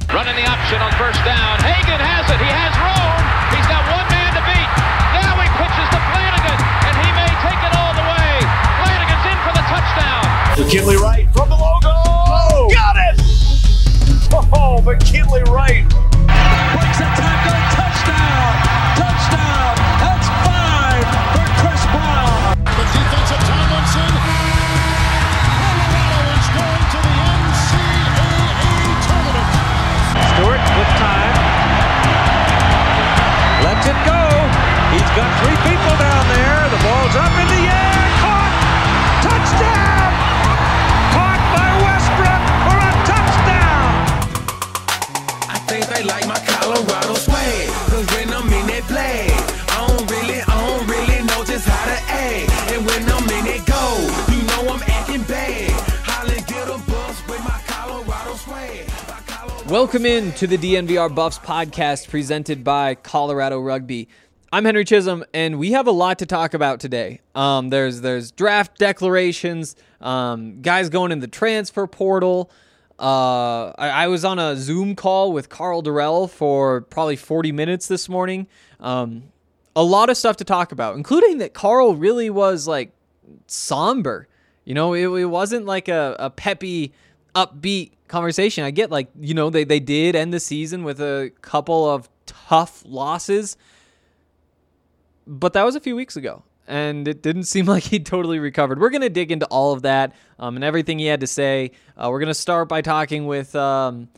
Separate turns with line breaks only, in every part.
Running the option on first down. Hagan has it. He has room. He's got one man to beat. Now he pitches to Flanagan, and he may take it all the way. Flanagan's in for the touchdown.
McKinley Wright from the logo. Oh, got it! Oh, McKinley Wright.
Breaks a tackle. Touchdown. Touchdown. That's 5 for Chris Brown.
The defensive Tomlinson. Colorado is going to the NCAA tournament.
Stewart with time. Lets it go. He's got 3 people down there. The ball's up in the air. Caught. Touchdown. Caught by Westbrook for a touchdown.
I think they like my Colorado swag. Cause when I'm in that play, I don't really know just how to act. And when I'm in it go, you know I'm acting bad. Holly get a bus with my Colorado swag.
Welcome in to the DNVR Buffs podcast presented by Colorado Rugby. I'm Henry Chisholm, and we have a lot to talk about today. There's draft declarations, guys going in the transfer portal. I was on a Zoom call with Carl Durrell for probably 40 minutes this morning. A lot of stuff to talk about, including that Carl really was like somber. You know, it wasn't like a peppy, upbeat conversation. I get like, you know, they did end the season with a couple of tough losses, but that was a few weeks ago, and it didn't seem like he'd totally recovered. We're going to dig into all of that and everything he had to say. We're going to start by talking about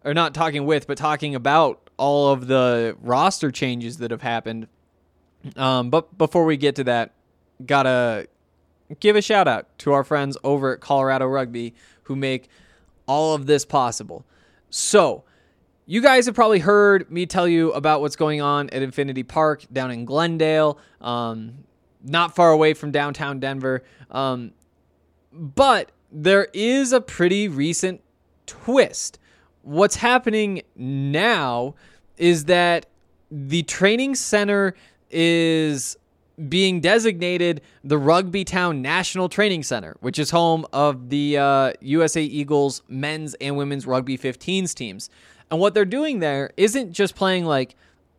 all of the roster changes that have happened. But before we get to that, gotta give a shout out to our friends over at Colorado Rugby who make all of this possible. So, you guys have probably heard me tell you about what's going on at Infinity Park down in Glendale, not far away from downtown Denver. But there is a pretty recent twist. What's happening now is that the training center is being designated the Rugby Town National Training Center, which is home of the USA Eagles men's and women's rugby 15s teams. And what they're doing there isn't just playing like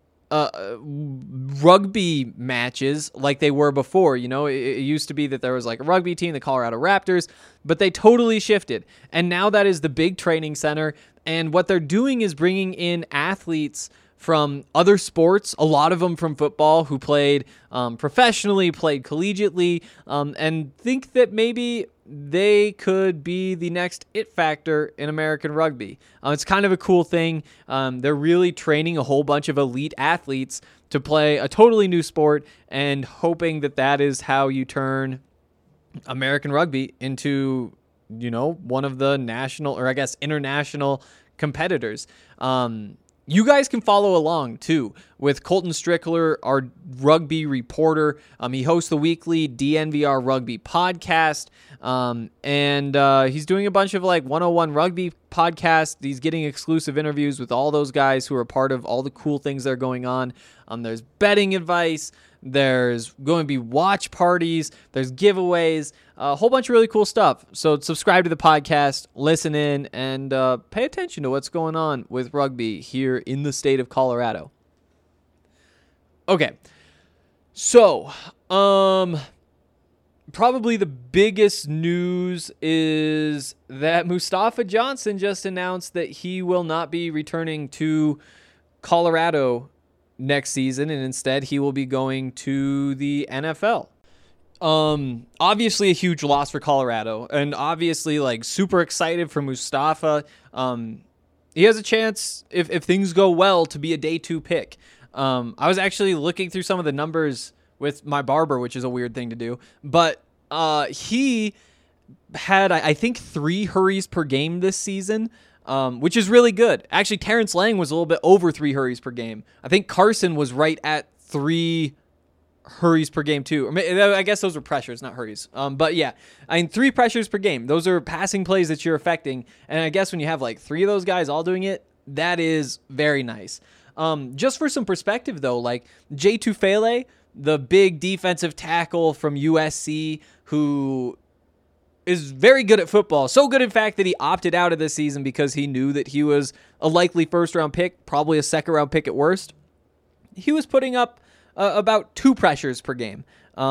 rugby matches like they were before. You know, it used to be that there was like a rugby team, the Colorado Raptors, but they totally shifted. And now that is the big training center. And what they're doing is bringing in athletes from other sports, a lot of them from football, who played professionally, played collegiately, and think that maybe they could be the next it factor in American rugby. It's kind of a cool thing. They're really training a whole bunch of elite athletes to play a totally new sport and hoping that that is how you turn American rugby into, you know, one of the national, or I guess international competitors. You guys can follow along, too, with Colton Strickler, our rugby reporter. He hosts the weekly DNVR Rugby podcast, and he's doing a bunch of, like, 101 Rugby podcasts. He's getting exclusive interviews with all those guys who are part of all the cool things that are going on. There's betting advice. There's going to be watch parties. There's giveaways. A whole bunch of really cool stuff. So subscribe to the podcast, listen in, and pay attention to what's going on with rugby here in the state of Colorado. Okay. So, probably the biggest news is that Mustafa Johnson just announced that he will not be returning to Colorado next season, and instead he will be going to the NFL. Obviously a huge loss for Colorado, and obviously like super excited for Mustafa. He has a chance, if things go well, to be a day 2 pick. I was actually looking through some of the numbers with my barber, which is a weird thing to do, but he had, I think, 3 hurries per game this season, which is really good. Actually, Terrence Lang was a little bit over 3 hurries per game. I think Carson was right at 3 hurries per game too. Or I guess those were pressures, not hurries. But yeah, I mean, 3 pressures per game. Those are passing plays that you're affecting. And I guess when you have like 3 of those guys all doing it, that is very nice. Just for some perspective though, like Jay Tufele, the big defensive tackle from USC who is very good at football. So good, in fact, that he opted out of this season because he knew that he was a likely first-round pick, probably a second-round pick at worst. He was putting up about 2 pressures per game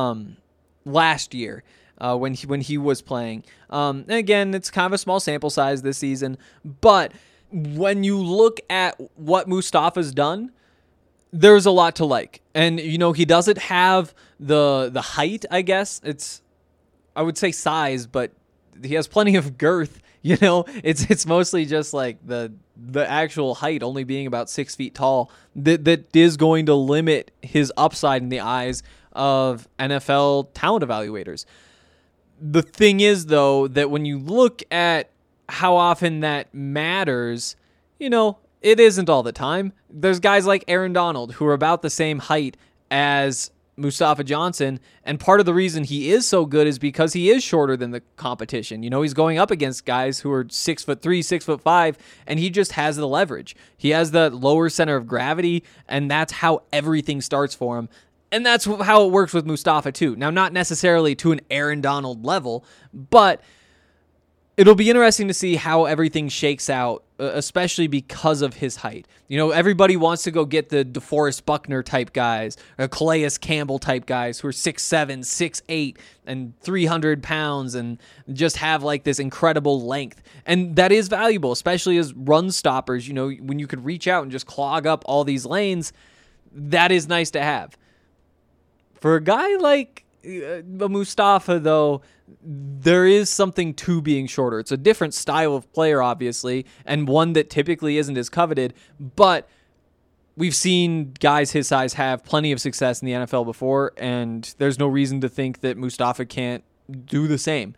last year when he was playing. And again, it's kind of a small sample size this season, but when you look at what Mustafa's done, there's a lot to like. And, he doesn't have the height, I guess. I would say size, but he has plenty of girth. It's mostly just like the actual height only being about 6 feet tall that is going to limit his upside in the eyes of NFL talent evaluators. The thing is, though, that when you look at how often that matters, it isn't all the time. There's guys like Aaron Donald who are about the same height as Mustafa Johnson, and part of the reason he is so good is because he is shorter than the competition. He's going up against guys who are 6'3", 6'5", and he just has the leverage. He has the lower center of gravity, and that's how everything starts for him. And that's how it works with Mustafa too. Now, not necessarily to an Aaron Donald level, but it'll be interesting to see how everything shakes out, especially because of his height. Everybody wants to go get the DeForest Buckner type guys, or Calais Campbell type guys who are 6'7", 6'8", and 300 pounds and just have like this incredible length. And that is valuable, especially as run stoppers. When you could reach out and just clog up all these lanes, that is nice to have. For a guy like Mustafa, though, there is something to being shorter. It's a different style of player, obviously, and one that typically isn't as coveted, but we've seen guys his size have plenty of success in the NFL before, and there's no reason to think that Mustafa can't do the same.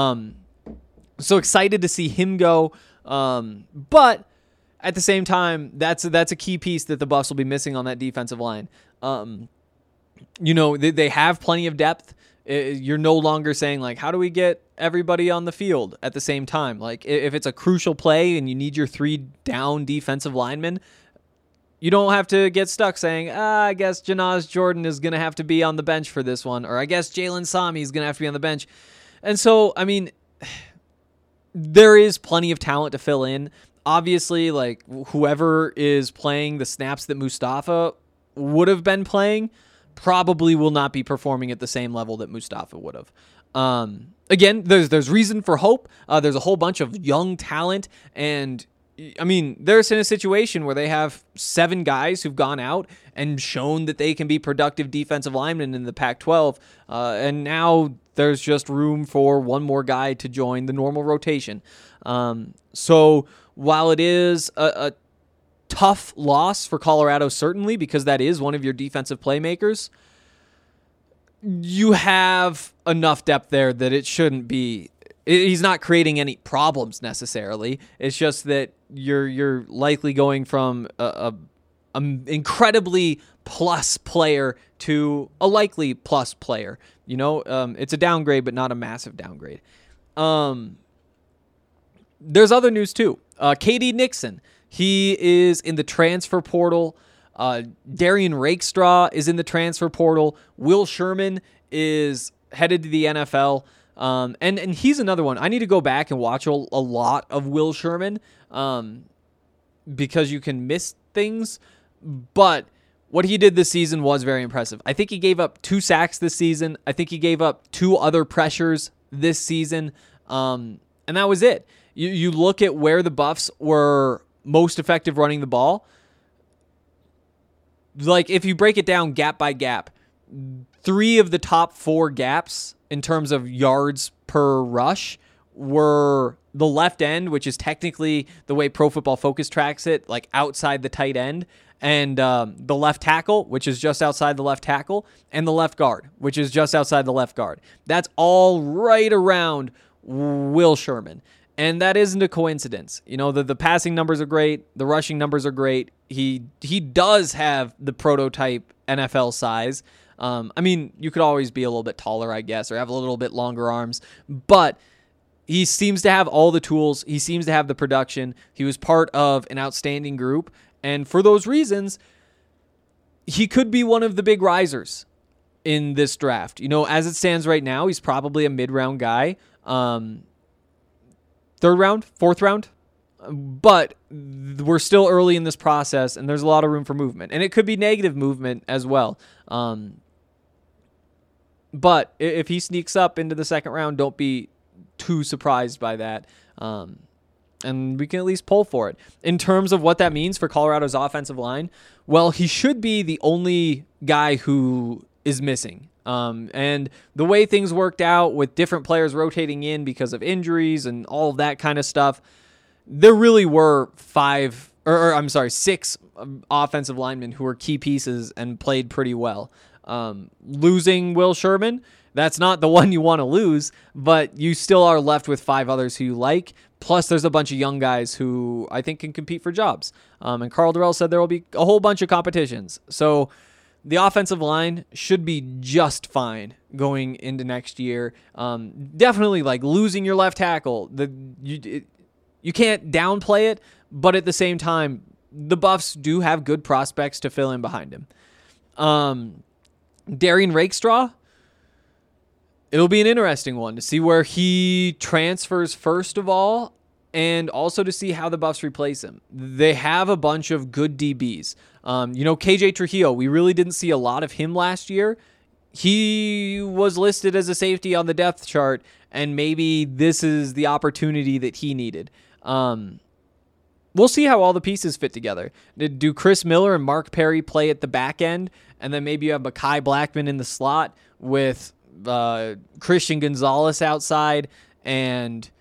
So excited to see him go, but at the same time, that's a key piece that the Buffs will be missing on that defensive line. They have plenty of depth. You're no longer saying, like, how do we get everybody on the field at the same time? Like, if it's a crucial play and you need your 3 down defensive linemen, you don't have to get stuck saying, I guess Janaz Jordan is going to have to be on the bench for this one, or I guess Jalen Sami is going to have to be on the bench. And so, there is plenty of talent to fill in. Obviously, like, whoever is playing the snaps that Mustafa would have been playing probably will not be performing at the same level that Mustafa would have. Again, there's reason for hope. There's a whole bunch of young talent, and they're in a situation where they have 7 guys who've gone out and shown that they can be productive defensive linemen in the Pac-12, and now there's just room for one more guy to join the normal rotation. So while it is a tough loss for Colorado, certainly, because that is one of your defensive playmakers, you have enough depth there that it shouldn't be. He's not creating any problems necessarily. It's just that you're likely going from a incredibly plus player to a likely plus player. It's a downgrade, but not a massive downgrade. There's other news too. KD Nixon. He is in the transfer portal. Darian Rakestraw is in the transfer portal. Will Sherman is headed to the NFL. And he's another one. I need to go back and watch a lot of Will Sherman because you can miss things. But what he did this season was very impressive. I think he gave up 2 sacks this season. I think he gave up 2 other pressures this season. And that was it. You look at where the Buffs were most effective running the ball. Like, if you break it down gap by gap, 3 of the top 4 gaps in terms of yards per rush were the left end, which is technically the way Pro Football Focus tracks it, like outside the tight end, and the left tackle, which is just outside the left tackle, and the left guard, which is just outside the left guard. That's all right around Will Sherman. And that isn't a coincidence. The passing numbers are great. The rushing numbers are great. He does have the prototype NFL size. You could always be a little bit taller, I guess, or have a little bit longer arms. But he seems to have all the tools. He seems to have the production. He was part of an outstanding group. And for those reasons, he could be one of the big risers in this draft. As it stands right now, he's probably a mid-round guy. third round, fourth round. But we're still early in this process, and there's a lot of room for movement. And it could be negative movement as well. But if he sneaks up into the second round, don't be too surprised by that. And we can at least pull for it. In terms of what that means for Colorado's offensive line, well, he should be the only guy who is missing. And the way things worked out with different players rotating in because of injuries and all of that kind of stuff, there really were six offensive linemen who were key pieces and played pretty well. Losing Will Sherman, that's not the one you want to lose, but you still are left with 5 others who you like. Plus, there's a bunch of young guys who I think can compete for jobs. And Carl Durrell said there will be a whole bunch of competitions. So the offensive line should be just fine going into next year. Definitely, like, losing your left tackle. You can't downplay it, but at the same time, the Buffs do have good prospects to fill in behind him. Darian Rakestraw, it'll be an interesting one to see where he transfers first of all, and also to see how the Buffs replace him. They have a bunch of good DBs. KJ Trujillo, we really didn't see a lot of him last year. He was listed as a safety on the depth chart, and maybe this is the opportunity that he needed. We'll see how all the pieces fit together. Do Chris Miller and Mark Perry play at the back end, and then maybe you have Mekhi Blackman in the slot with Christian Gonzalez outside and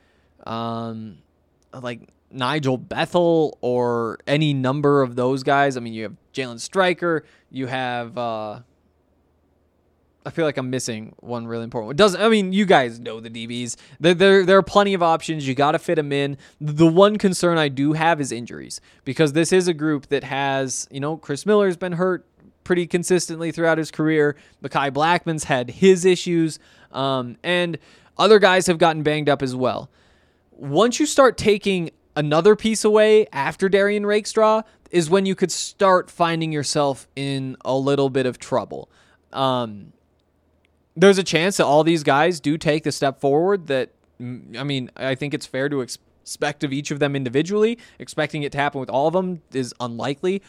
like Nigel Bethel or any number of those guys? I mean, you have Jalen Stryker. You have I feel like I'm missing one really important one. You guys know the DBs. There are plenty of options. You got to fit them in. The one concern I do have is injuries, because this is a group that has, Chris Miller's been hurt pretty consistently throughout his career. Mekhi Blackman's had his issues, and other guys have gotten banged up as well. Once you start taking another piece away after Darian Rakestraw is when you could start finding yourself in a little bit of trouble. There's a chance that all these guys do take the step forward that, I think it's fair to expect of each of them individually. Expecting it to happen with all of them is unlikely.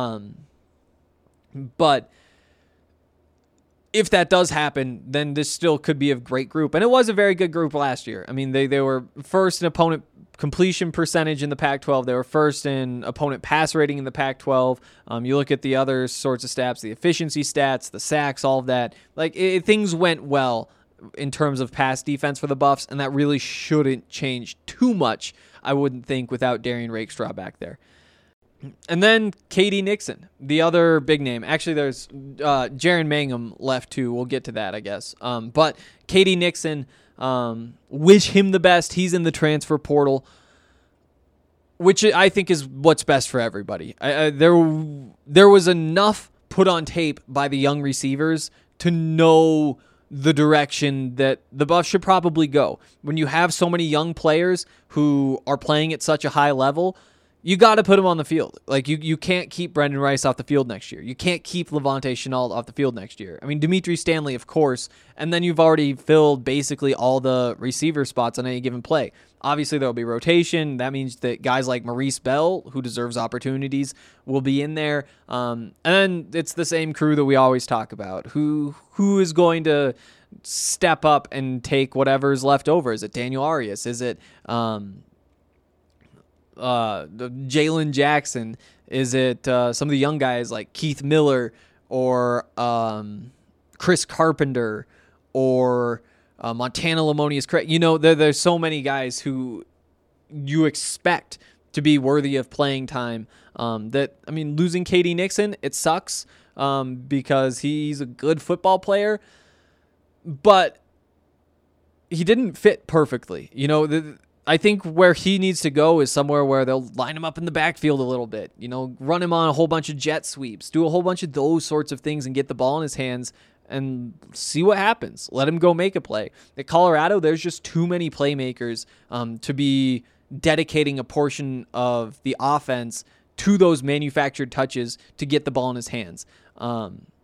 But if that does happen, then this still could be a great group. And it was a very good group last year. They were first in opponent completion percentage in the Pac-12. They were first in opponent pass rating in the Pac-12. You look at the other sorts of stats, the efficiency stats, the sacks, all of that. Things went well in terms of pass defense for the Buffs, and that really shouldn't change too much, I wouldn't think, without Darian Rakestraw back there. And then K.D. Nixon, the other big name. Actually, there's Jaron Mangum left too. We'll get to that, I guess. But K.D. Nixon, wish him the best. He's in the transfer portal, which I think is what's best for everybody. There was enough put on tape by the young receivers to know the direction that the Buffs should probably go. When you have so many young players who are playing at such a high level, you got to put them on the field. You can't keep Brendan Rice off the field next year. You can't keep Levante Chenault off the field next year. Dimitri Stanley, of course, and then you've already filled basically all the receiver spots on any given play. Obviously, there will be rotation. That means that guys like Maurice Bell, who deserves opportunities, will be in there. And then it's the same crew that we always talk about. Who is going to step up and take whatever's left over? Is it Daniel Arias? Is it Jalen Jackson? Is it some of the young guys like Keith Miller or Chris Carpenter or Montana Lamonius Craig? There's so many guys who you expect to be worthy of playing time. Losing K.D. Nixon, it sucks because he's a good football player, but he didn't fit perfectly. I think where he needs to go is somewhere where they'll line him up in the backfield a little bit, run him on a whole bunch of jet sweeps, do a whole bunch of those sorts of things and get the ball in his hands and see what happens. Let him go make a play. At Colorado, there's just too many playmakers to be dedicating a portion of the offense to those manufactured touches to get the ball in his hands.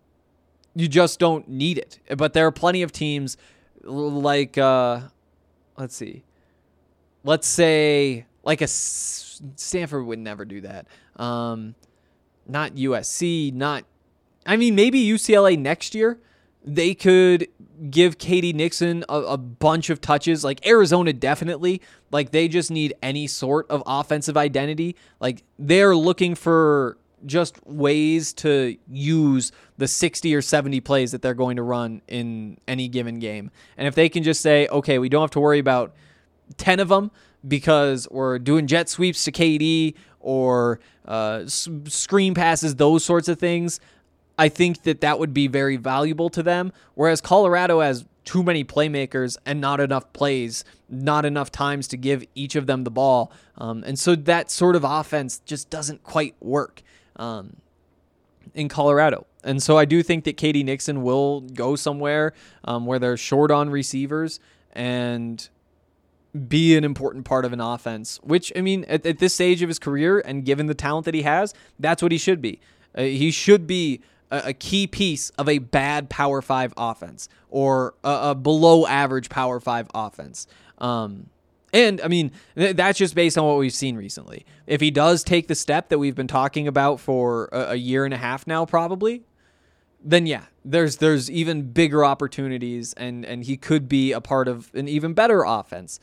You just don't need it. But there are plenty of teams like... let's see. Let's say like Stanford would never do that. Not USC, maybe UCLA next year. They could give Katie Nixon a bunch of touches. Like Arizona definitely. Like they just need any sort of offensive identity. Like they're looking for just ways to use the 60 or 70 plays that they're going to run in any given game. And if they can just say, okay, we don't have to worry about 10 of them because we're doing jet sweeps to KD or screen passes, those sorts of things, I think that would be very valuable to them. Whereas Colorado has too many playmakers and not enough plays, not enough times to give each of them the ball. And so that sort of offense just doesn't quite work in Colorado. And so I do think that Katie Nixon will go somewhere where they're short on receivers and be an important part of an offense, which, I mean, at this stage of his career and given the talent that he has, that's what he should be. He should be a key piece of a bad Power 5 offense or a below average Power 5 offense. And, I mean, that's just based on what we've seen recently. If he does take the step that we've been talking about for a year and a half now, probably, then yeah, there's even bigger opportunities, and he could be a part of an even better offense.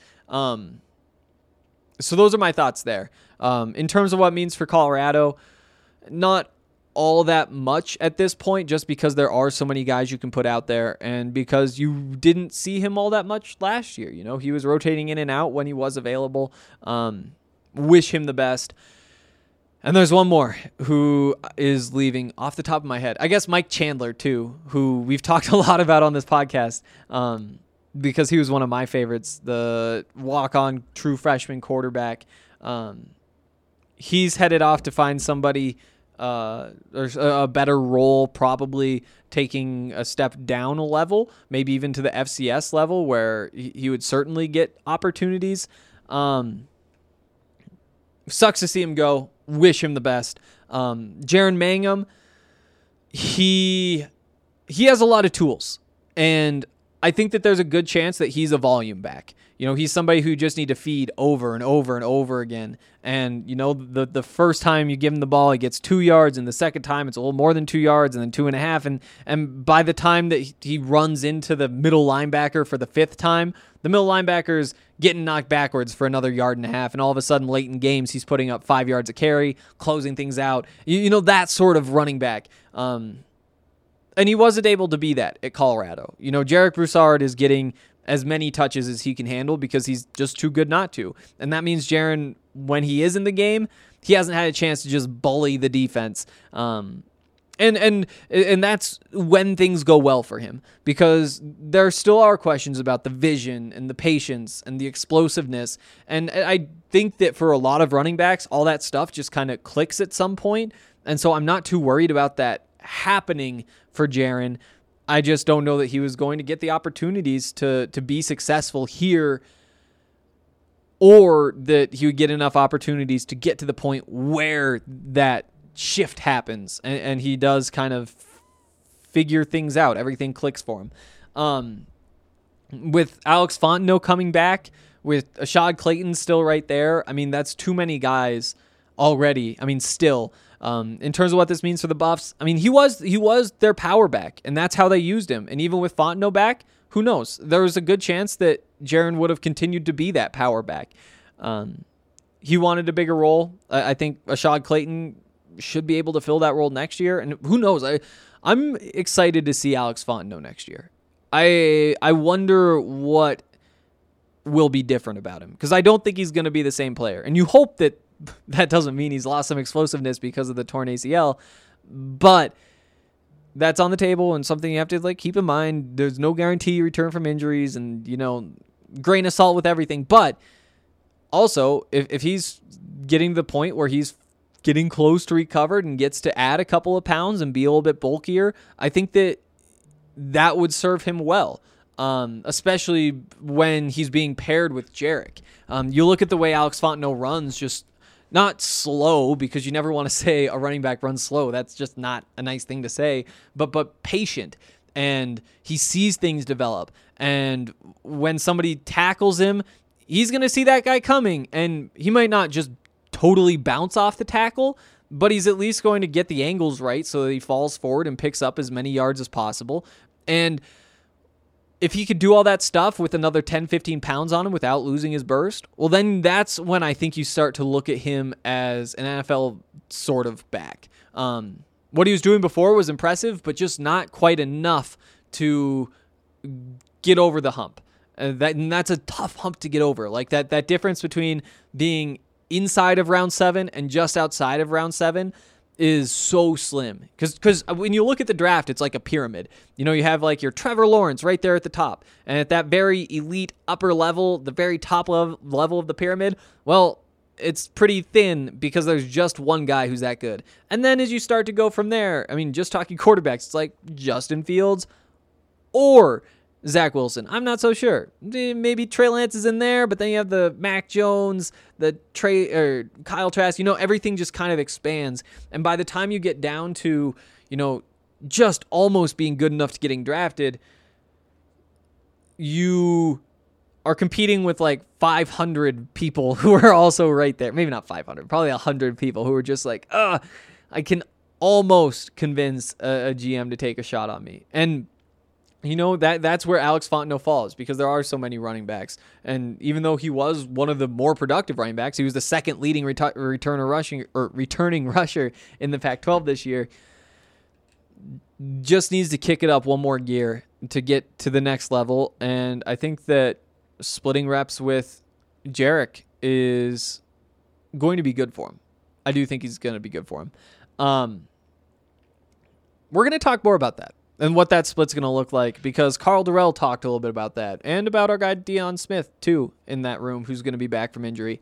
So those are my thoughts there. In terms of what it means for Colorado, not all that much at this point, just because there are so many guys you can put out there and because you didn't see him all that much last year. You know, he was rotating in and out when he was available. Wish him the best. And there's one more who is leaving off the top of my head. I guess Mike Chandler, too, who we've talked a lot about on this podcast because he was one of my favorites, the walk-on true freshman quarterback. He's headed off to find somebody or a better role, probably taking a step down a level, maybe even to the FCS level where he would certainly get opportunities. Sucks to see him go. Wish him the best. Jaren Mangham, he has a lot of tools, and I think that there's a good chance that he's a volume back. You know, he's somebody who just need to feed over and over and over again. And, you know, the first time you give him the ball, he gets 2 yards, and the second time it's a little more than 2 yards, and then 2.5. And by the time that he runs into the middle linebacker for the fifth time, the middle linebacker's getting knocked backwards for another 1.5 yards. And all of a sudden, late in games, he's putting up 5 yards a carry, closing things out. You know, that sort of running back. And he wasn't able to be that at Colorado. You know, Jarek Broussard is getting as many touches as he can handle because he's just too good not to. And that means Jaren, when he is in the game, he hasn't had a chance to just bully the defense. And that's when things go well for him, because there still are questions about the vision and the patience and the explosiveness. And I think that for a lot of running backs, all that stuff just kind of clicks at some point. And so I'm not too worried about that happening for Jaren. I just don't know that he was going to get the opportunities to be successful here, or that he would get enough opportunities to get to the point where that shift happens and he does kind of figure things out. Everything clicks for him. With Alex Fontenot coming back, with Ashad Clayton still right there, I mean, that's too many guys already. I mean, still. In terms of what this means for the Buffs, I mean, he was their power back, and that's how they used him. And even with Fontenot back, who knows? There was a good chance that Jaren would have continued to be that power back. He wanted a bigger role. I think Ashad Clayton should be able to fill that role next year. And who knows? I'm excited to see Alex Fontenot next year. I wonder what will be different about him, because I don't think he's going to be the same player. And you hope that doesn't mean he's lost some explosiveness because of the torn ACL, but that's on the table and something you have to keep in mind. There's no guarantee you return from injuries, and, you know, grain of salt with everything. But also, if he's getting to the point where he's getting close to recovered and gets to add a couple of pounds and be a little bit bulkier, I think that would serve him well. Especially when he's being paired with Jarek. You look at the way Alex Fontenot runs, just not slow, because you never want to say a running back runs slow. That's just not a nice thing to say, but patient. and he sees things develop. And when somebody tackles him, he's going to see that guy coming, and he might not just totally bounce off the tackle, but he's at least going to get the angles right so that he falls forward and picks up as many yards as possible. And if he could do all that stuff with another 10, 15 pounds on him without losing his burst, well, then that's when I think you start to look at him as an NFL sort of back. What he was doing before was impressive, but just not quite enough to get over the hump. And that's a tough hump to get over. Like that difference between being inside of round 7 and just outside of round 7 is so slim. Because when you look at the draft, it's like a pyramid. You have like your Trevor Lawrence right there at the top. And at that very elite upper level, the very top level of the pyramid, well, it's pretty thin because there's just one guy who's that good. And then as you start to go from there, I mean, just talking quarterbacks, it's like Justin Fields or Zach Wilson. I'm not so sure. Maybe Trey Lance is in there, but then you have the Mac Jones, the Kyle Trask. Everything just kind of expands. And by the time you get down to, just almost being good enough to getting drafted, you are competing with like 500 people who are also right there. Maybe not 500, probably 100 people who are just like, I can almost convince a GM to take a shot on me. And that's where Alex Fontenot falls, because there are so many running backs. And even though he was one of the more productive running backs, he was the second leading returning rusher in the Pac-12 this year, just needs to kick it up one more gear to get to the next level. And I think that splitting reps with Jarek is going to be good for him. I do think he's going to be good for him. We're going to talk more about that and what that split's going to look like, because Carl Durrell talked a little bit about that, and about our guy Deion Smith too in that room, who's going to be back from injury.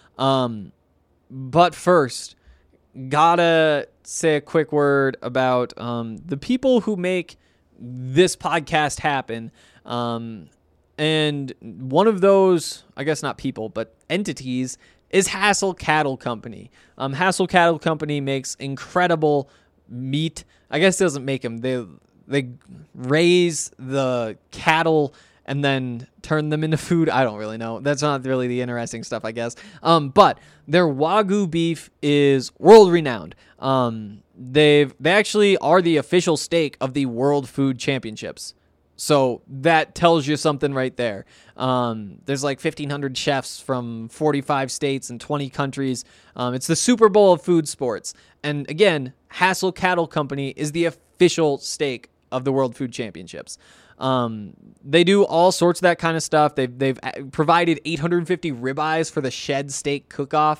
But first, gotta say a quick word about the people who make this podcast happen. And one of those, I guess not people, but entities, is Hassel Cattle Company. Hassel Cattle Company makes incredible meat. I guess it doesn't make them. They raise the cattle and then turn them into food. I don't really know. That's not really the interesting stuff, I guess. But their Wagyu beef is world renowned. They actually are the official steak of the World Food Championships. So that tells you something right there. There's like 1,500 chefs from 45 states and 20 countries. It's the Super Bowl of food sports. And again, Hassel Cattle Company is the official steak of the World Food Championships. They do all sorts of that kind of stuff. They've provided 850 ribeyes for the Shed Steak Cook-Off.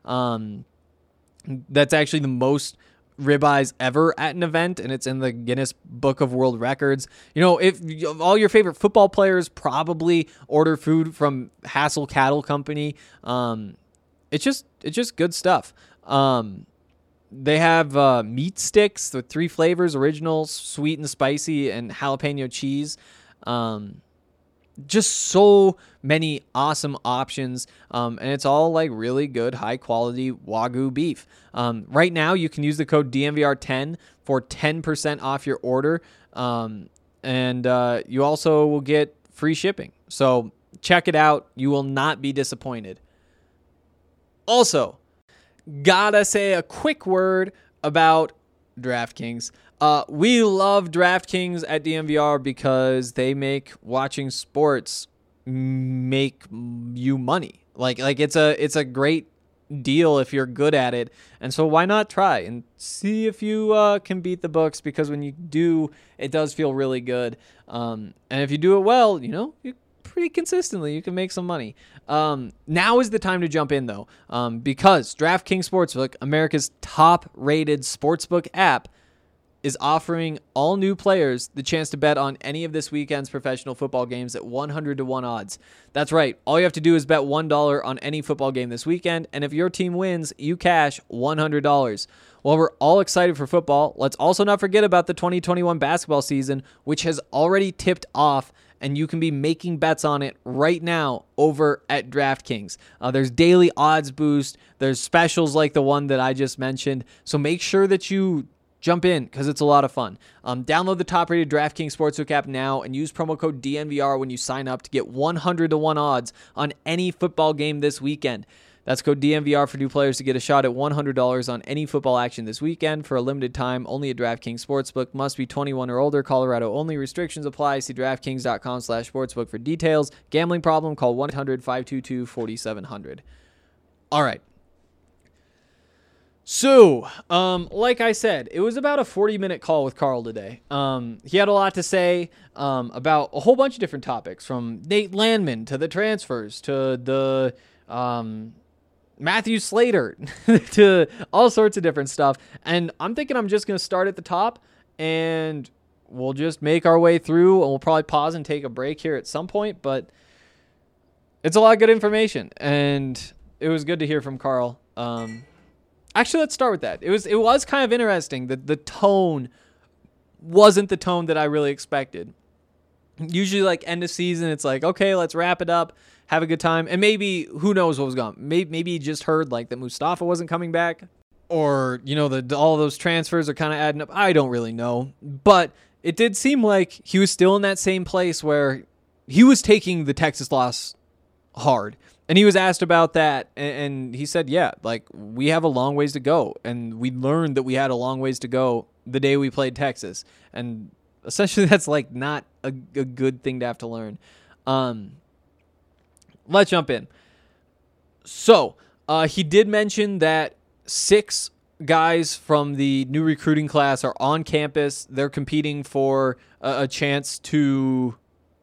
That's actually the most ribeyes ever at an event, and it's in the Guinness Book of World Records. If all your favorite football players probably order food from Hassel Cattle Company, it's just good stuff. They have meat sticks with 3 flavors: original, sweet and spicy, and jalapeno cheese. Just so many awesome options, and it's all like really good, high quality Wagyu beef. Right now, you can use the code DNVR10 for 10% off your order, and you also will get free shipping. So check it out. You will not be disappointed. Also, gotta say a quick word about DraftKings. We love DraftKings at DNVR because they make watching sports make you money. Like it's a great deal if you're good at it. And so why not try and see if you can beat the books, because when you do, it does feel really good. And if you do it well, you pretty consistently, you can make some money. Now is the time to jump in though, because DraftKings Sportsbook, America's top-rated sportsbook app, is offering all new players the chance to bet on any of this weekend's professional football games at 100-1 odds. That's right. All you have to do is bet $1 on any football game this weekend, and if your team wins, you cash $100. While we're all excited for football, let's also not forget about the 2021 basketball season, which has already tipped off, and you can be making bets on it right now over at DraftKings. There's daily odds boost. There's specials like the one that I just mentioned. So make sure that you Jump in because it's a lot of fun. Download the top-rated DraftKings Sportsbook app now and use promo code DNVR when you sign up to get 100-to-1 odds on any football game this weekend. That's code DNVR for new players to get a shot at $100 on any football action this weekend for a limited time. Only at DraftKings Sportsbook. Must be 21 or older. Colorado only. Restrictions apply. See DraftKings.com/sportsbook for details. Gambling problem? Call 1-800-522-4700. All right. So, like I said, it was about a 40-minute call with Carl today. He had a lot to say about a whole bunch of different topics, from Nate Landman to the transfers to the Matthew Slater to all sorts of different stuff. And I'm thinking I'm just going to start at the top, and we'll just make our way through, and we'll probably pause and take a break here at some point. But it's a lot of good information, and it was good to hear from Carl. Actually, let's start with that. It was kind of interesting that the tone wasn't the tone that I really expected. Usually, like, end of season, it's like, okay, let's wrap it up, have a good time. And maybe, who knows what was going on. Maybe he just heard, like, that Mustafa wasn't coming back. Or, you know, all of those transfers are kind of adding up. I don't really know. But it did seem like he was still in that same place where he was taking the Texas loss hard. And he was asked about that, and he said, yeah, like, we have a long ways to go. And we learned that we had a long ways to go the day we played Texas. And essentially that's, like, not a good thing to have to learn. Let's jump in. So, he did mention that 6 guys from the new recruiting class are on campus. They're competing for a chance to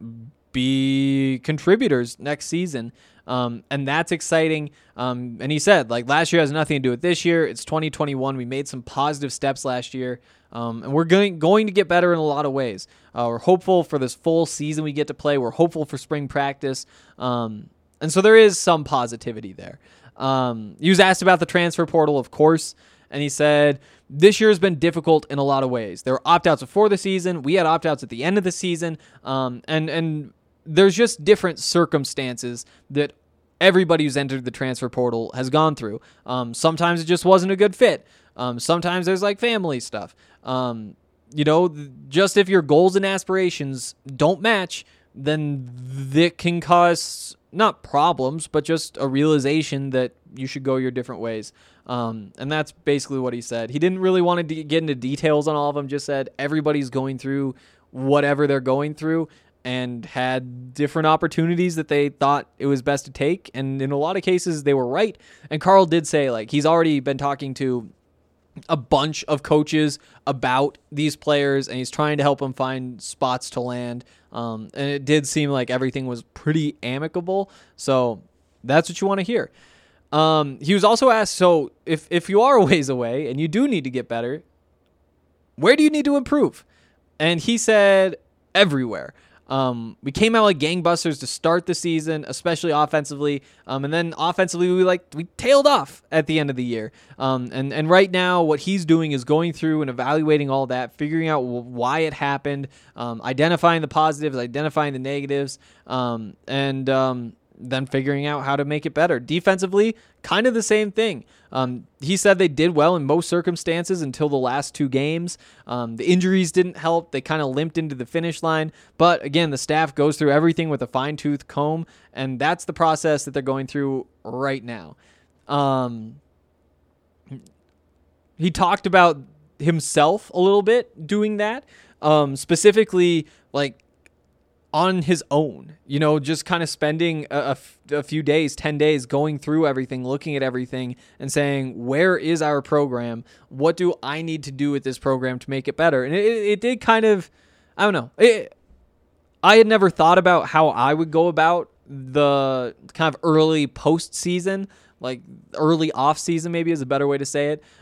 be contributors next season. And that's exciting. And he said, like, last year has nothing to do with this year. It's 2021. We made some positive steps last year. And we're going to get better in a lot of ways. We're hopeful for this full season we get to play. We're hopeful for spring practice. And so there is some positivity there. He was asked about the transfer portal, of course. And he said, this year has been difficult in a lot of ways. There were opt-outs before the season. We had opt-outs at the end of the season. And there's just different circumstances that everybody who's entered the transfer portal has gone through. Sometimes it just wasn't a good fit. Sometimes there's, like, family stuff. You know, just if your goals and aspirations don't match, then that can cause not problems, but just a realization that you should go your different ways. And that's basically what he said. He didn't really want to get into details on all of them, just said everybody's going through whatever they're going through and had different opportunities that they thought it was best to take. And in a lot of cases, they were right. And Carl did say, like, he's already been talking to a bunch of coaches about these players, and he's trying to help them find spots to land. And it did seem like everything was pretty amicable. So that's what you want to hear. He was also asked, so if you are a ways away and you do need to get better, where do you need to improve? And he said, everywhere. We came out like gangbusters to start the season, especially offensively. And then offensively, we tailed off at the end of the year. And right now what he's doing is going through and evaluating all that, figuring out why it happened, identifying the positives, identifying the negatives, and then figuring out how to make it better. Defensively, kind of the same thing. He said they did well in most circumstances until the last 2 games. The injuries didn't help. They kind of limped into the finish line. But again, the staff goes through everything with a fine-tooth comb, and that's the process that they're going through right now. He talked about himself a little bit doing that, specifically, like, on his own, you know, just kind of spending a few days, 10 days, going through everything, looking at everything and saying, where is our program? What do I need to do with this program to make it better? And it did kind of, I don't know. I had never thought about how I would go about the kind of early postseason, like early off season, maybe is a better way to say it.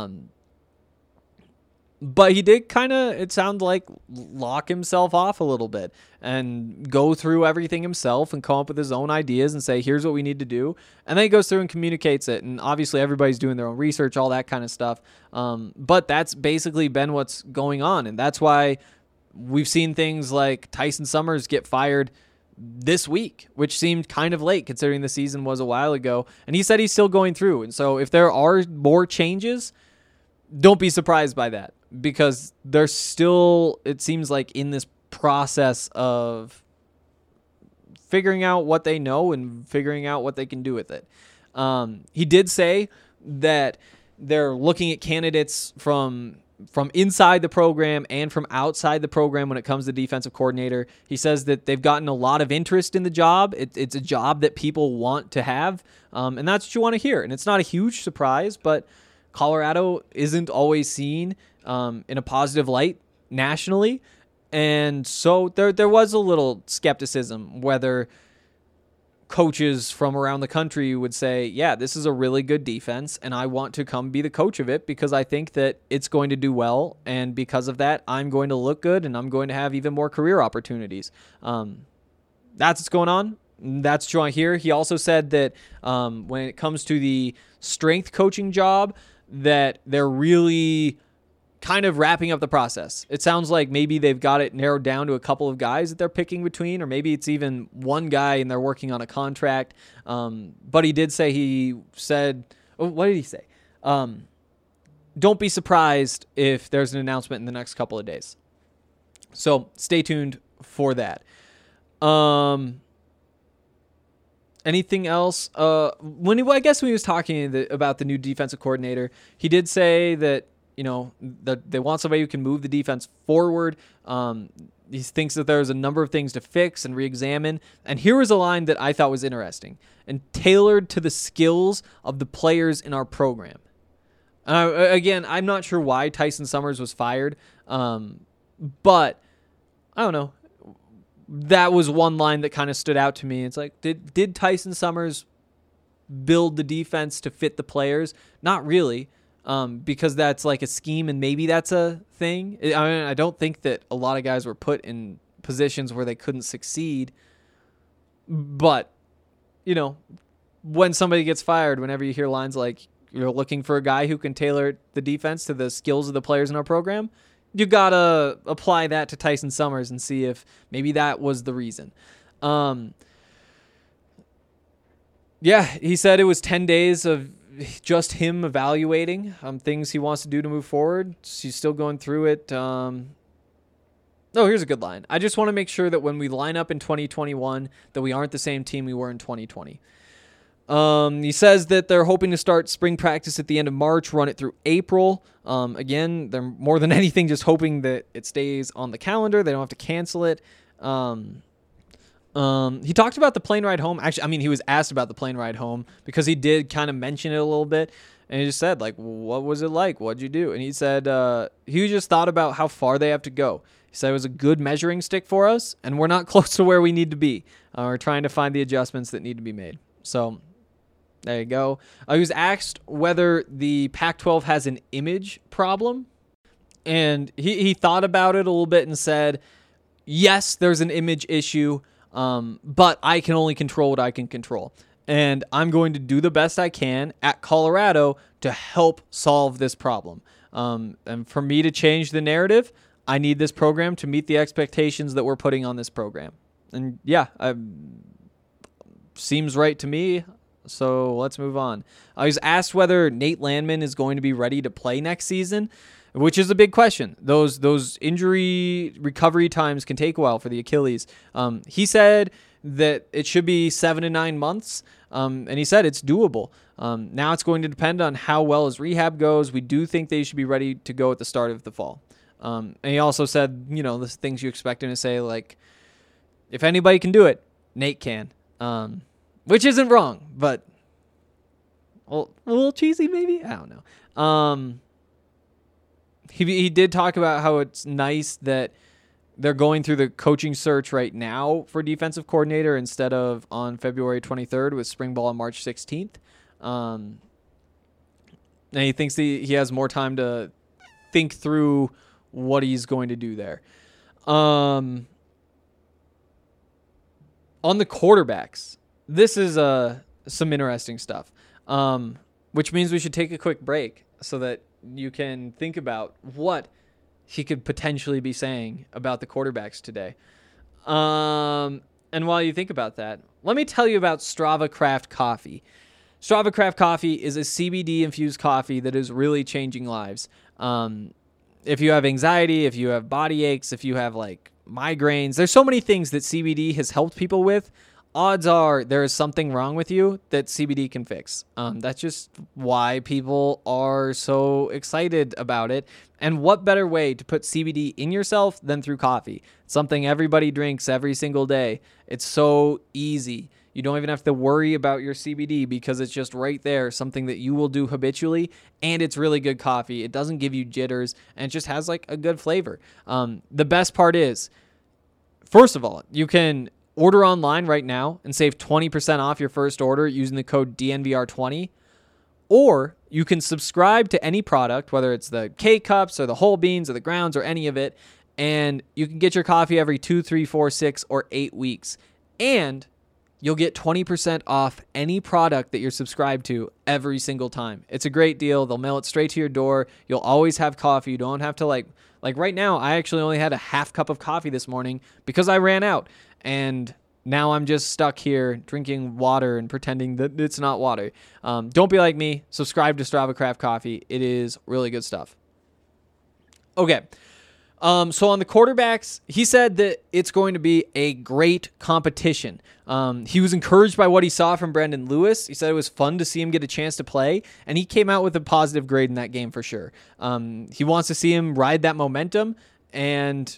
But he did kind of, it sounded like, lock himself off a little bit and go through everything himself and come up with his own ideas and say, here's what we need to do. And then he goes through and communicates it. And obviously everybody's doing their own research, all that kind of stuff. But that's basically been what's going on. And that's why we've seen things like Tyson Summers get fired this week, which seemed kind of late considering the season was a while ago. And he said he's still going through. And so if there are more changes, don't be surprised by that. because they're still, it seems like, in this process of figuring out what they know and figuring out what they can do with it. He did say that they're looking at candidates from inside the program and from outside the program when it comes to defensive coordinator. He says that they've gotten a lot of interest in the job. It's a job that people want to have, and that's what you want to hear. And it's not a huge surprise, but Colorado isn't always seen in a positive light nationally. And so there was a little skepticism whether coaches from around the country would say, yeah, this is a really good defense, and I want to come be the coach of it because I think that it's going to do well, and because of that, I'm going to look good, and I'm going to have even more career opportunities. That's what's going on. That's what you want to hear. He also said that when it comes to the strength coaching job, that they're really kind of wrapping up the process. It sounds like maybe they've got it narrowed down to a couple of guys that they're picking between, or maybe it's even one guy and they're working on a contract. But he did say, what did he say? Don't be surprised if there's an announcement in the next couple of days. So stay tuned for that. Anything else? I guess when he was talking about the new defensive coordinator, he did say that, that they want somebody who can move the defense forward. He thinks that there's a number of things to fix and re-examine. And here was a line that I thought was interesting and tailored to the skills of the players in our program. Again, I'm not sure why Tyson Summers was fired, but I don't know. That was one line that kind of stood out to me. It's like, did Tyson Summers build the defense to fit the players? Not really. Because that's like a scheme and maybe that's a thing. I don't think that a lot of guys were put in positions where they couldn't succeed. But, when somebody gets fired, whenever you hear lines like, you're looking for a guy who can tailor the defense to the skills of the players in our program, you got to apply that to Tyson Summers and see if maybe that was the reason. He said it was 10 days of just him evaluating things he wants to do to move forward. He's still going through it. Here's a good line. I just want to make sure that when we line up in 2021 that we aren't the same team we were in 2020. He says that they're hoping to start spring practice at the end of March, run it through April. Again, they're more than anything just hoping that it stays on the calendar. They don't have to cancel it. He talked about the plane ride home. Actually, he was asked about the plane ride home because he did kind of mention it a little bit. And he just said, what was it like? What'd you do? And he said he just thought about how far they have to go. He said it was a good measuring stick for us, and we're not close to where we need to be. We're trying to find the adjustments that need to be made. So there you go. He was asked whether the Pac-12 has an image problem. And he thought about it a little bit and said, yes, there's an image issue. But I can only control what I can control. And I'm going to do the best I can at Colorado to help solve this problem. And for me to change the narrative, I need this program to meet the expectations that we're putting on this program. And seems right to me. So let's move on. I was asked whether Nate Landman is going to be ready to play next season, which is a big question. Those injury recovery times can take a while for the Achilles. He said that it should be 7 to 9 months, and he said it's doable. Now it's going to depend on how well his rehab goes. We do think they should be ready to go at the start of the fall. And he also said, the things you expect him to say, like, if anybody can do it, Nate can. Which isn't wrong, but a little cheesy maybe? I don't know. He did talk about how it's nice that they're going through the coaching search right now for defensive coordinator instead of on February 23rd with spring ball on March 16th. And he thinks he has more time to think through what he's going to do there. On the quarterbacks, this is some interesting stuff, which means we should take a quick break so that you can think about what he could potentially be saying about the quarterbacks today. And while you think about that, let me tell you about Strava Craft Coffee. Strava Craft Coffee is a CBD-infused coffee that is really changing lives. if you have anxiety, if you have body aches, if you have like migraines, there's so many things that CBD has helped people with. Odds are there is something wrong with you that CBD can fix. That's just why people are so excited about it. And what better way to put CBD in yourself than through coffee? Something everybody drinks every single day. It's so easy. You don't even have to worry about your CBD because it's just right there, something that you will do habitually, and it's really good coffee. It doesn't give you jitters, and it just has like a good flavor. The best part is, first of all, you can order online right now and save 20% off your first order using the code DNVR20. Or you can subscribe to any product, whether it's the K-Cups or the whole beans or the grounds or any of it, and you can get your coffee every 2, 3, 4, 6, or 8 weeks. And you'll get 20% off any product that you're subscribed to every single time. It's a great deal. They'll mail it straight to your door. You'll always have coffee. You don't have to like right now, I actually only had a half cup of coffee this morning because I ran out. And now I'm just stuck here drinking water and pretending that it's not water. Don't be like me. Subscribe to Strava Craft Coffee. It is really good stuff. Okay. So on the quarterbacks, he said that it's going to be a great competition. He was encouraged by what he saw from Brandon Lewis. He said it was fun to see him get a chance to play, and he came out with a positive grade in that game for sure. He wants to see him ride that momentum and,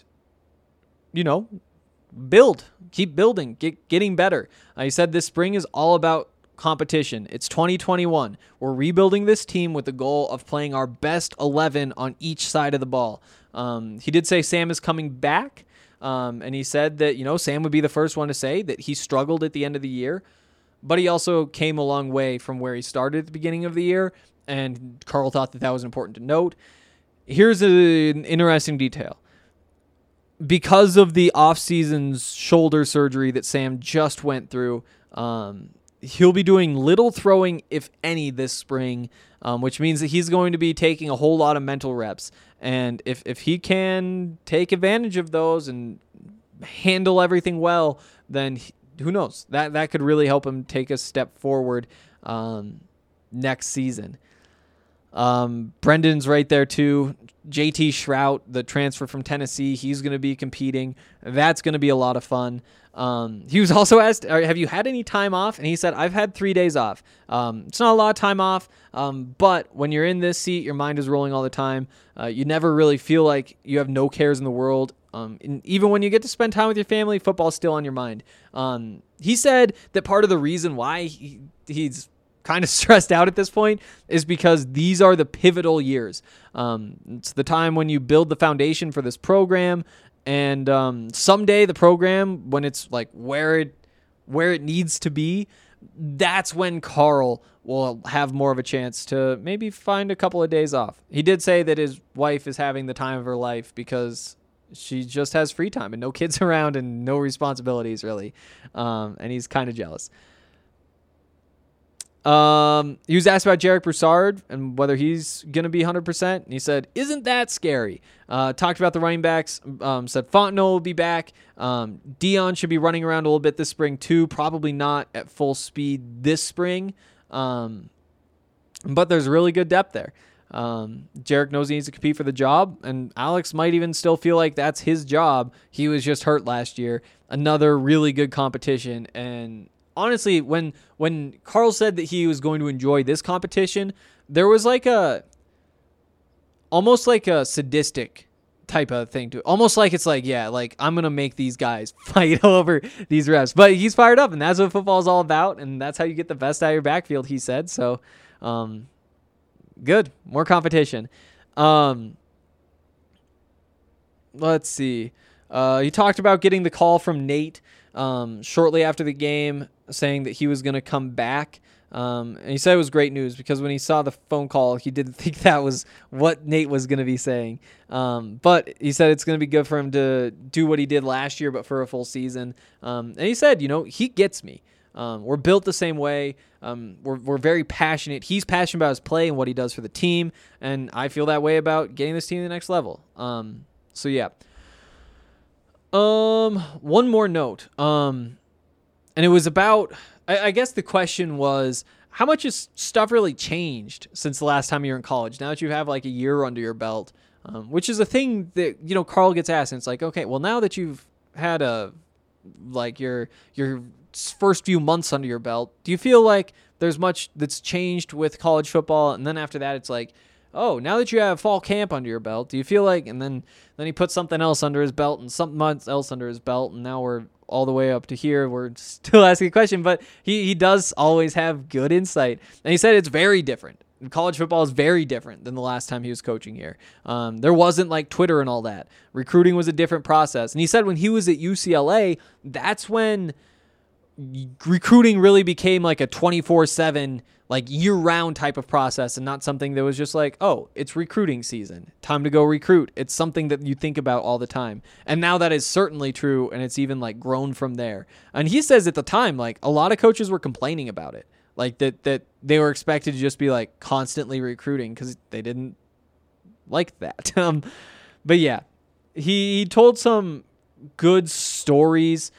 keep building, getting better. He said this spring is all about competition. It's 2021. We're rebuilding this team with the goal of playing our best 11 on each side of the ball. He did say Sam is coming back, and he said that, Sam would be the first one to say that he struggled at the end of the year, but he also came a long way from where he started at the beginning of the year, and Carl thought that was important to note. Here's an interesting detail. Because of the off-season's shoulder surgery that Sam just went through, he'll be doing little throwing, if any, this spring, which means that he's going to be taking a whole lot of mental reps. And if he can take advantage of those and handle everything well, then who knows? That could really help him take a step forward next season. Brendan's right there too. JT Shrout, the transfer from Tennessee, he's going to be competing. That's going to be a lot of fun. He was also asked, have you had any time off? And he said, I've had 3 days off. It's not a lot of time off, but when you're in this seat, your mind is rolling all the time. You never really feel like you have no cares in the world. And even when you get to spend time with your family, football's still on your mind. He said that part of the reason why he's kind of stressed out at this point is because these are the pivotal years. It's the time when you build the foundation for this program, and someday the program, when it's like where it needs to be, that's when Carl will have more of a chance to maybe find a couple of days off. He did say that his wife is having the time of her life because she just has free time and no kids around and no responsibilities really, and he's kind of jealous. He was asked about Jarek Broussard and whether he's going to be 100%. And he said, isn't that scary? Talked about the running backs. Said Fontenot will be back. Dion should be running around a little bit this spring too. Probably not at full speed this spring. But there's really good depth there. Jarek knows he needs to compete for the job, and Alex might even still feel like that's his job. He was just hurt last year. Another really good competition, and honestly, when Carl said that he was going to enjoy this competition, there was almost like a sadistic type of thing to it. Almost like it's like, yeah, like I'm going to make these guys fight over these reps. But he's fired up, and that's what football is all about, and that's how you get the best out of your backfield, he said. So, good. More competition. Let's see. He talked about getting the call from Nate shortly after the game, saying that he was going to come back. And he said it was great news because when he saw the phone call, he didn't think that was what Nate was going to be saying. But he said it's going to be good for him to do what he did last year, but for a full season. And he said, he gets me. We're built the same way. We're very passionate. He's passionate about his play and what he does for the team. And I feel that way about getting this team to the next level. So yeah. One more note. And it was about, I guess the question was, how much has stuff really changed since the last time you were in college? Now that you have like a year under your belt, which is a thing that, you know, Carl gets asked, and it's like, okay, well, now that you've had your first few months under your belt, do you feel like there's much that's changed with college football? And then after that, it's like, oh, now that you have fall camp under your belt, do you feel like, and then he puts something else under his belt and something else under his belt, and now we're all the way up to here. We're still asking a question, but he does always have good insight. And he said it's very different. College football is very different than the last time he was coaching here. There wasn't like Twitter and all that. Recruiting was a different process. And he said when he was at UCLA, that's when recruiting really became like a 24/7, like year-round type of process, and not something that was just like, oh, it's recruiting season, time to go recruit. It's something that you think about all the time. And now that is certainly true, and it's even like grown from there. And he says at the time, like a lot of coaches were complaining about it, like that they were expected to just be like constantly recruiting because they didn't like that. But yeah, he told some good stories,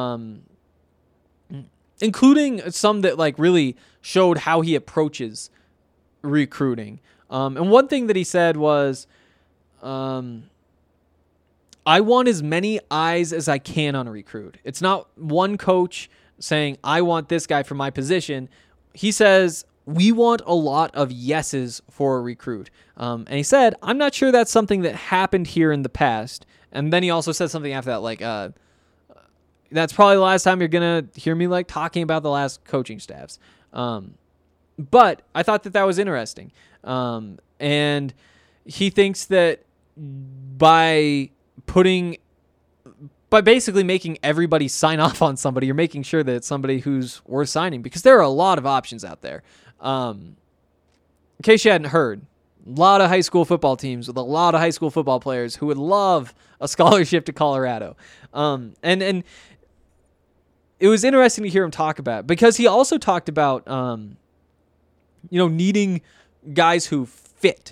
including some that like really showed how he approaches recruiting. And one thing that he said was, I want as many eyes as I can on a recruit. It's not one coach saying, I want this guy for my position. He says, we want a lot of yeses for a recruit. And he said, I'm not sure that's something that happened here in the past. And then he also said something after that, like, that's probably the last time you're going to hear me like talking about the last coaching staffs. But I thought that was interesting. And he thinks that by basically making everybody sign off on somebody, you're making sure that it's somebody who's worth signing, because there are a lot of options out there. In case you hadn't heard, a lot of high school football teams with a lot of high school football players who would love a scholarship to Colorado. And it was interesting to hear him talk about it, because he also talked about, needing guys who fit.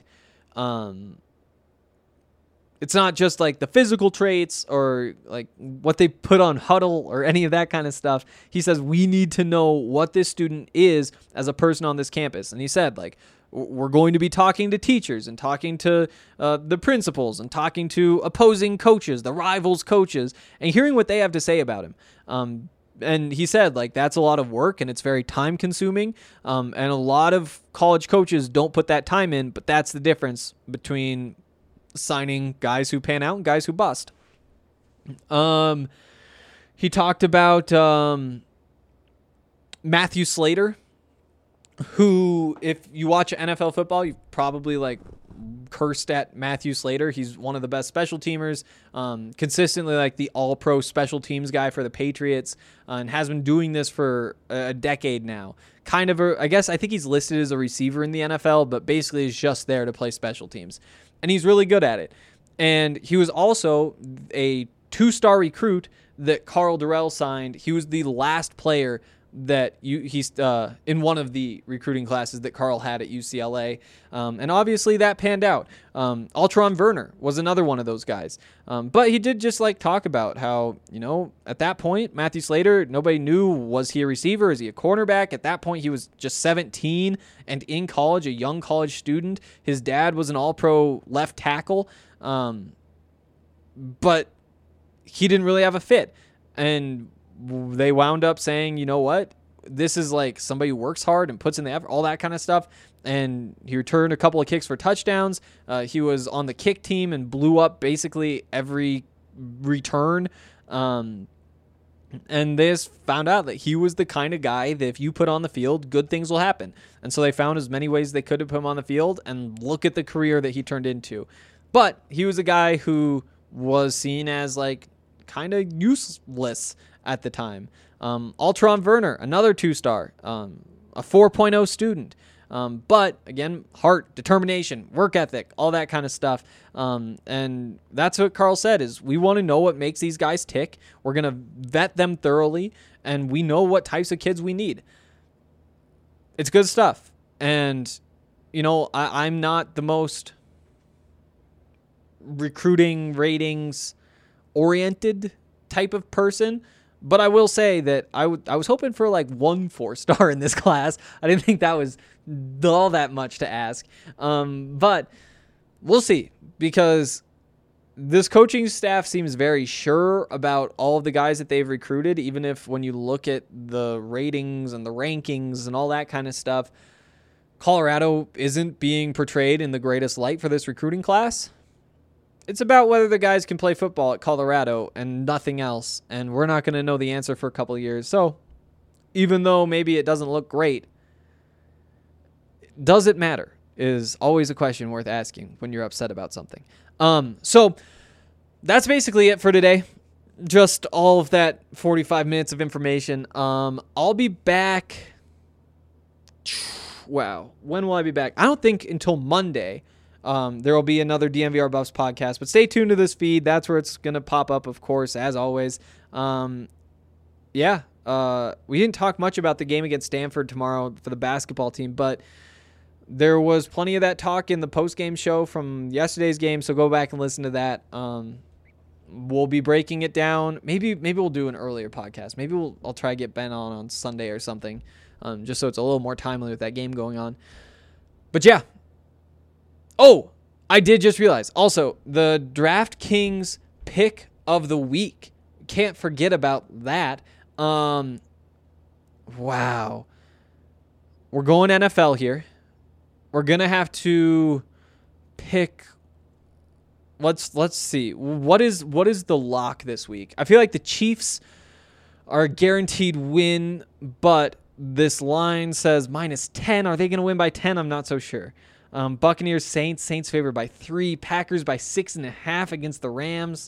It's not just like the physical traits or like what they put on Huddle or any of that kind of stuff. He says, we need to know what this student is as a person on this campus. And he said, like, we're going to be talking to teachers and talking to the principals and talking to opposing coaches, the rivals coaches, and hearing what they have to say about him. And he said, like, that's a lot of work and it's very time consuming. And a lot of college coaches don't put that time in, but that's the difference between signing guys who pan out and guys who bust. He talked about Matthew Slater, who, if you watch NFL football, you've probably like cursed at Matthew Slater. He's one of the best special teamers, consistently like the all-pro special teams guy for the Patriots, and has been doing this for a decade now. I think he's listed as a receiver in the NFL, but basically is just there to play special teams. And he's really good at it. And he was also a 2-star recruit that Carl Durrell signed. He was the last player that he's in one of the recruiting classes that Carl had at UCLA. And obviously that panned out. Altron Werner was another one of those guys. But he did just like talk about how, at that point, Matthew Slater, nobody knew, was he a receiver? Is he a cornerback? At that point, he was just 17 and in college, a young college student. His dad was an all-pro left tackle. But he didn't really have a fit. And they wound up saying, you know what? This is like somebody who works hard and puts in the effort, all that kind of stuff. And he returned a couple of kicks for touchdowns. He was on the kick team and blew up basically every return. And they just found out that he was the kind of guy that if you put on the field, good things will happen. And so they found as many ways they could to put him on the field, and look at the career that he turned into. But he was a guy who was seen as like kind of useless at the time. Altron Werner, another 2-star, a 4.0 student. But again, heart, determination, work ethic, all that kind of stuff. And that's what Carl said, is we want to know what makes these guys tick. We're going to vet them thoroughly, and we know what types of kids we need. It's good stuff. And, I'm not the most recruiting ratings oriented type of person, but I will say that I was hoping for like 1 4-star in this class. I didn't think that was all that much to ask. But we'll see, because this coaching staff seems very sure about all of the guys that they've recruited, even if when you look at the ratings and the rankings and all that kind of stuff, Colorado isn't being portrayed in the greatest light for this recruiting class. It's about whether the guys can play football at Colorado and nothing else, and we're not going to know the answer for a couple of years. So even though maybe it doesn't look great, does it matter is always a question worth asking when you're upset about something. So that's basically it for today. Just all of that 45 minutes of information. I'll be back. Wow. When will I be back? I don't think until Monday. There will be another DNVR Buffs podcast, but stay tuned to this feed. That's where it's going to pop up, of course, as always. We didn't talk much about the game against Stanford tomorrow for the basketball team, but there was plenty of that talk in the post-game show from yesterday's game, so go back and listen to that. We'll be breaking it down. Maybe we'll do an earlier podcast. Maybe I'll try to get Ben on Sunday or something, just so it's a little more timely with that game going on. But yeah. Oh, I did just realize. Also, the DraftKings pick of the week. Can't forget about that. Wow. We're going NFL here. We're going to have to pick. Let's see. What is the lock this week? I feel like the Chiefs are a guaranteed win, but this line says -10. Are they going to win by 10? I'm not so sure. Buccaneers, Saints favored by 3. Packers by 6.5 against the Rams.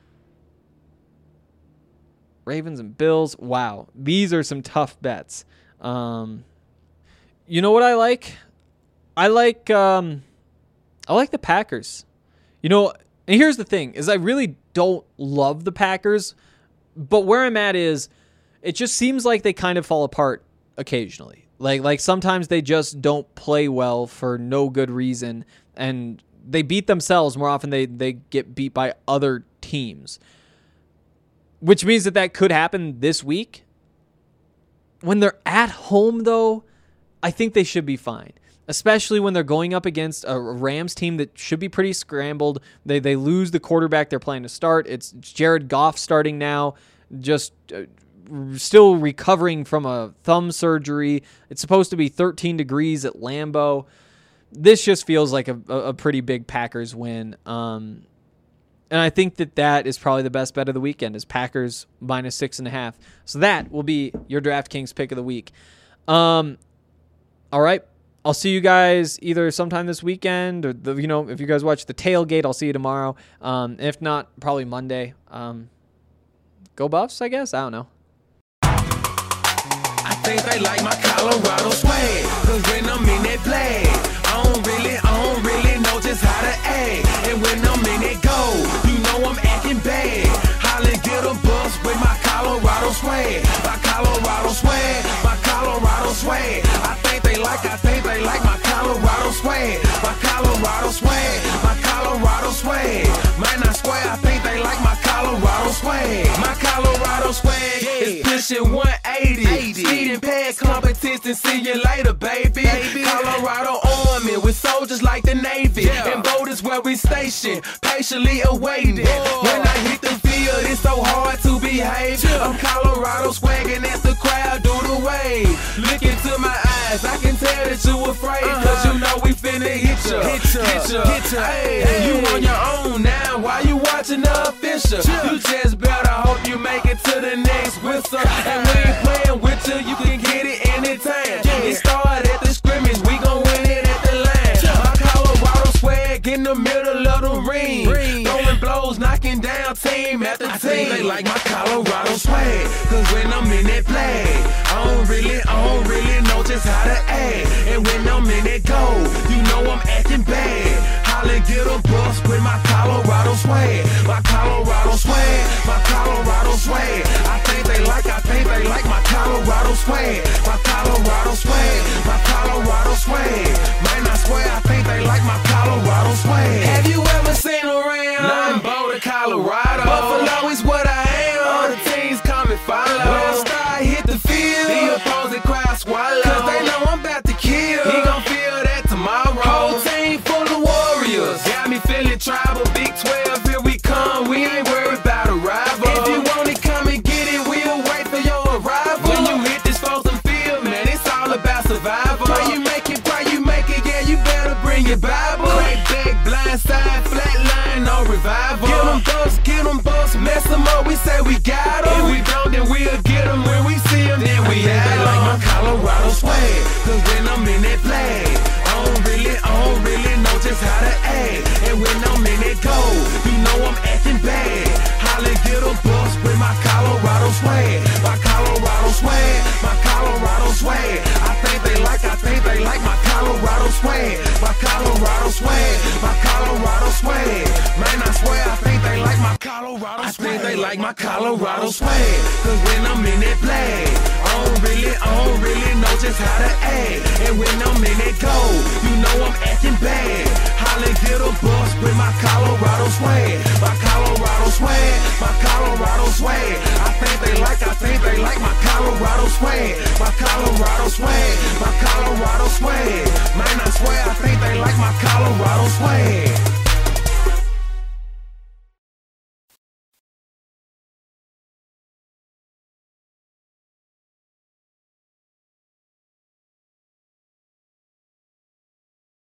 Ravens and Bills. Wow. These are some tough bets. You know what I like? I like the Packers. And here's the thing, is I really don't love the Packers, but where I'm at is it just seems like they kind of fall apart occasionally. Like sometimes they just don't play well for no good reason, and they beat themselves more often they get beat by other teams, which means that could happen this week. When they're at home, though, I think they should be fine, especially when they're going up against a Rams team that should be pretty scrambled. They lose the quarterback they're planning to start. It's Jared Goff starting now, just still recovering from a thumb surgery. It's supposed to be 13 degrees at Lambeau. This just feels like a pretty big Packers win. And I think that is probably the best bet of the weekend, is Packers -6.5. So that will be your DraftKings pick of the week. All right. I'll see you guys either sometime this weekend, or if you guys watch the tailgate, I'll see you tomorrow. If not, probably Monday. Go Buffs, I guess. I don't know.
I think they like my Colorado swag, cause when I'm in that play, I don't really know just how to act. And when I'm in that go, I'm acting bad. Holla, get a bus with my Colorado swag. My Colorado swag, my Colorado swag. I think they like my Colorado swag. My Colorado swag, my Colorado swag. Might not swear, I think they like my Colorado swag. My Colorado swag is pushing 180. Speeding past competition, see you later, baby. Colorado Army with soldiers like the Navy. And voters where we stationed, patiently awaiting. When I hit the field, it's so hard to behave. I'm Colorado swagging as the crowd do the wave. Look into my eyes, I can tell that you afraid. Cause you know we finna hit ya. Hey, you on your own now, why you watching the official? You just better hope you make it to the next whistle. And we ain't playing with you can get it anytime. It started at the scrimmage, we gon' win it at the line. My Colorado swag in the middle of the ring. Throwing blows, knocking down team after team. I think they like my Colorado swag, cause when I'm in that play, I don't really know just how to act. And when I'm in that go, I'm acting bad. Holla, get a bus with my Colorado swag. My Colorado swag, my Colorado swag. I think they like my Colorado swag. My Colorado swag, my Colorado swag. Might not swear, I think they like my Colorado swag. Have you ever seen a Ram? I'm Boulder, Colorado. Buffalo is what I am. All the teams come and follow. When I start hit the field, the opposing crowd swallow. Cause they know I'm about to kill. He gon' feel that tomorrow. Whole team full of warriors. we feeling tribal. Big 12, here we come. We ain't worried about a rival. If you want it, come and get it. We'll wait for your arrival. When you hit this frozen field, man, it's all about survival. Pray you make it, yeah, you better bring your Bible. Crack back, blind side, flat line, no revival. Get them bucks, mess them up, we say we got them. If we don't, then we'll get them. When we see them, then we had them. Like my Colorado swag, cause when I'm in that flag, I don't really know just how to act. And when I'm in that gold, you know I'm acting bad. Holly get a bus with my Colorado swag. My Colorado swag, my Colorado swag. I think they like my Colorado swag. My Colorado swag, my Colorado swag. Man, I swear I think they like my Colorado swag. I think they like my Colorado swag. Cause when I'm in that flag, I don't really know just how to act. And when I'm in that gold, you know I'm acting bad. Holly get a bus with my Colorado swag. My Colorado swag, my Colorado swag. I think they like my Colorado swag. My Colorado swag, my Colorado swag. Man, I swear I think they like my Colorado swag.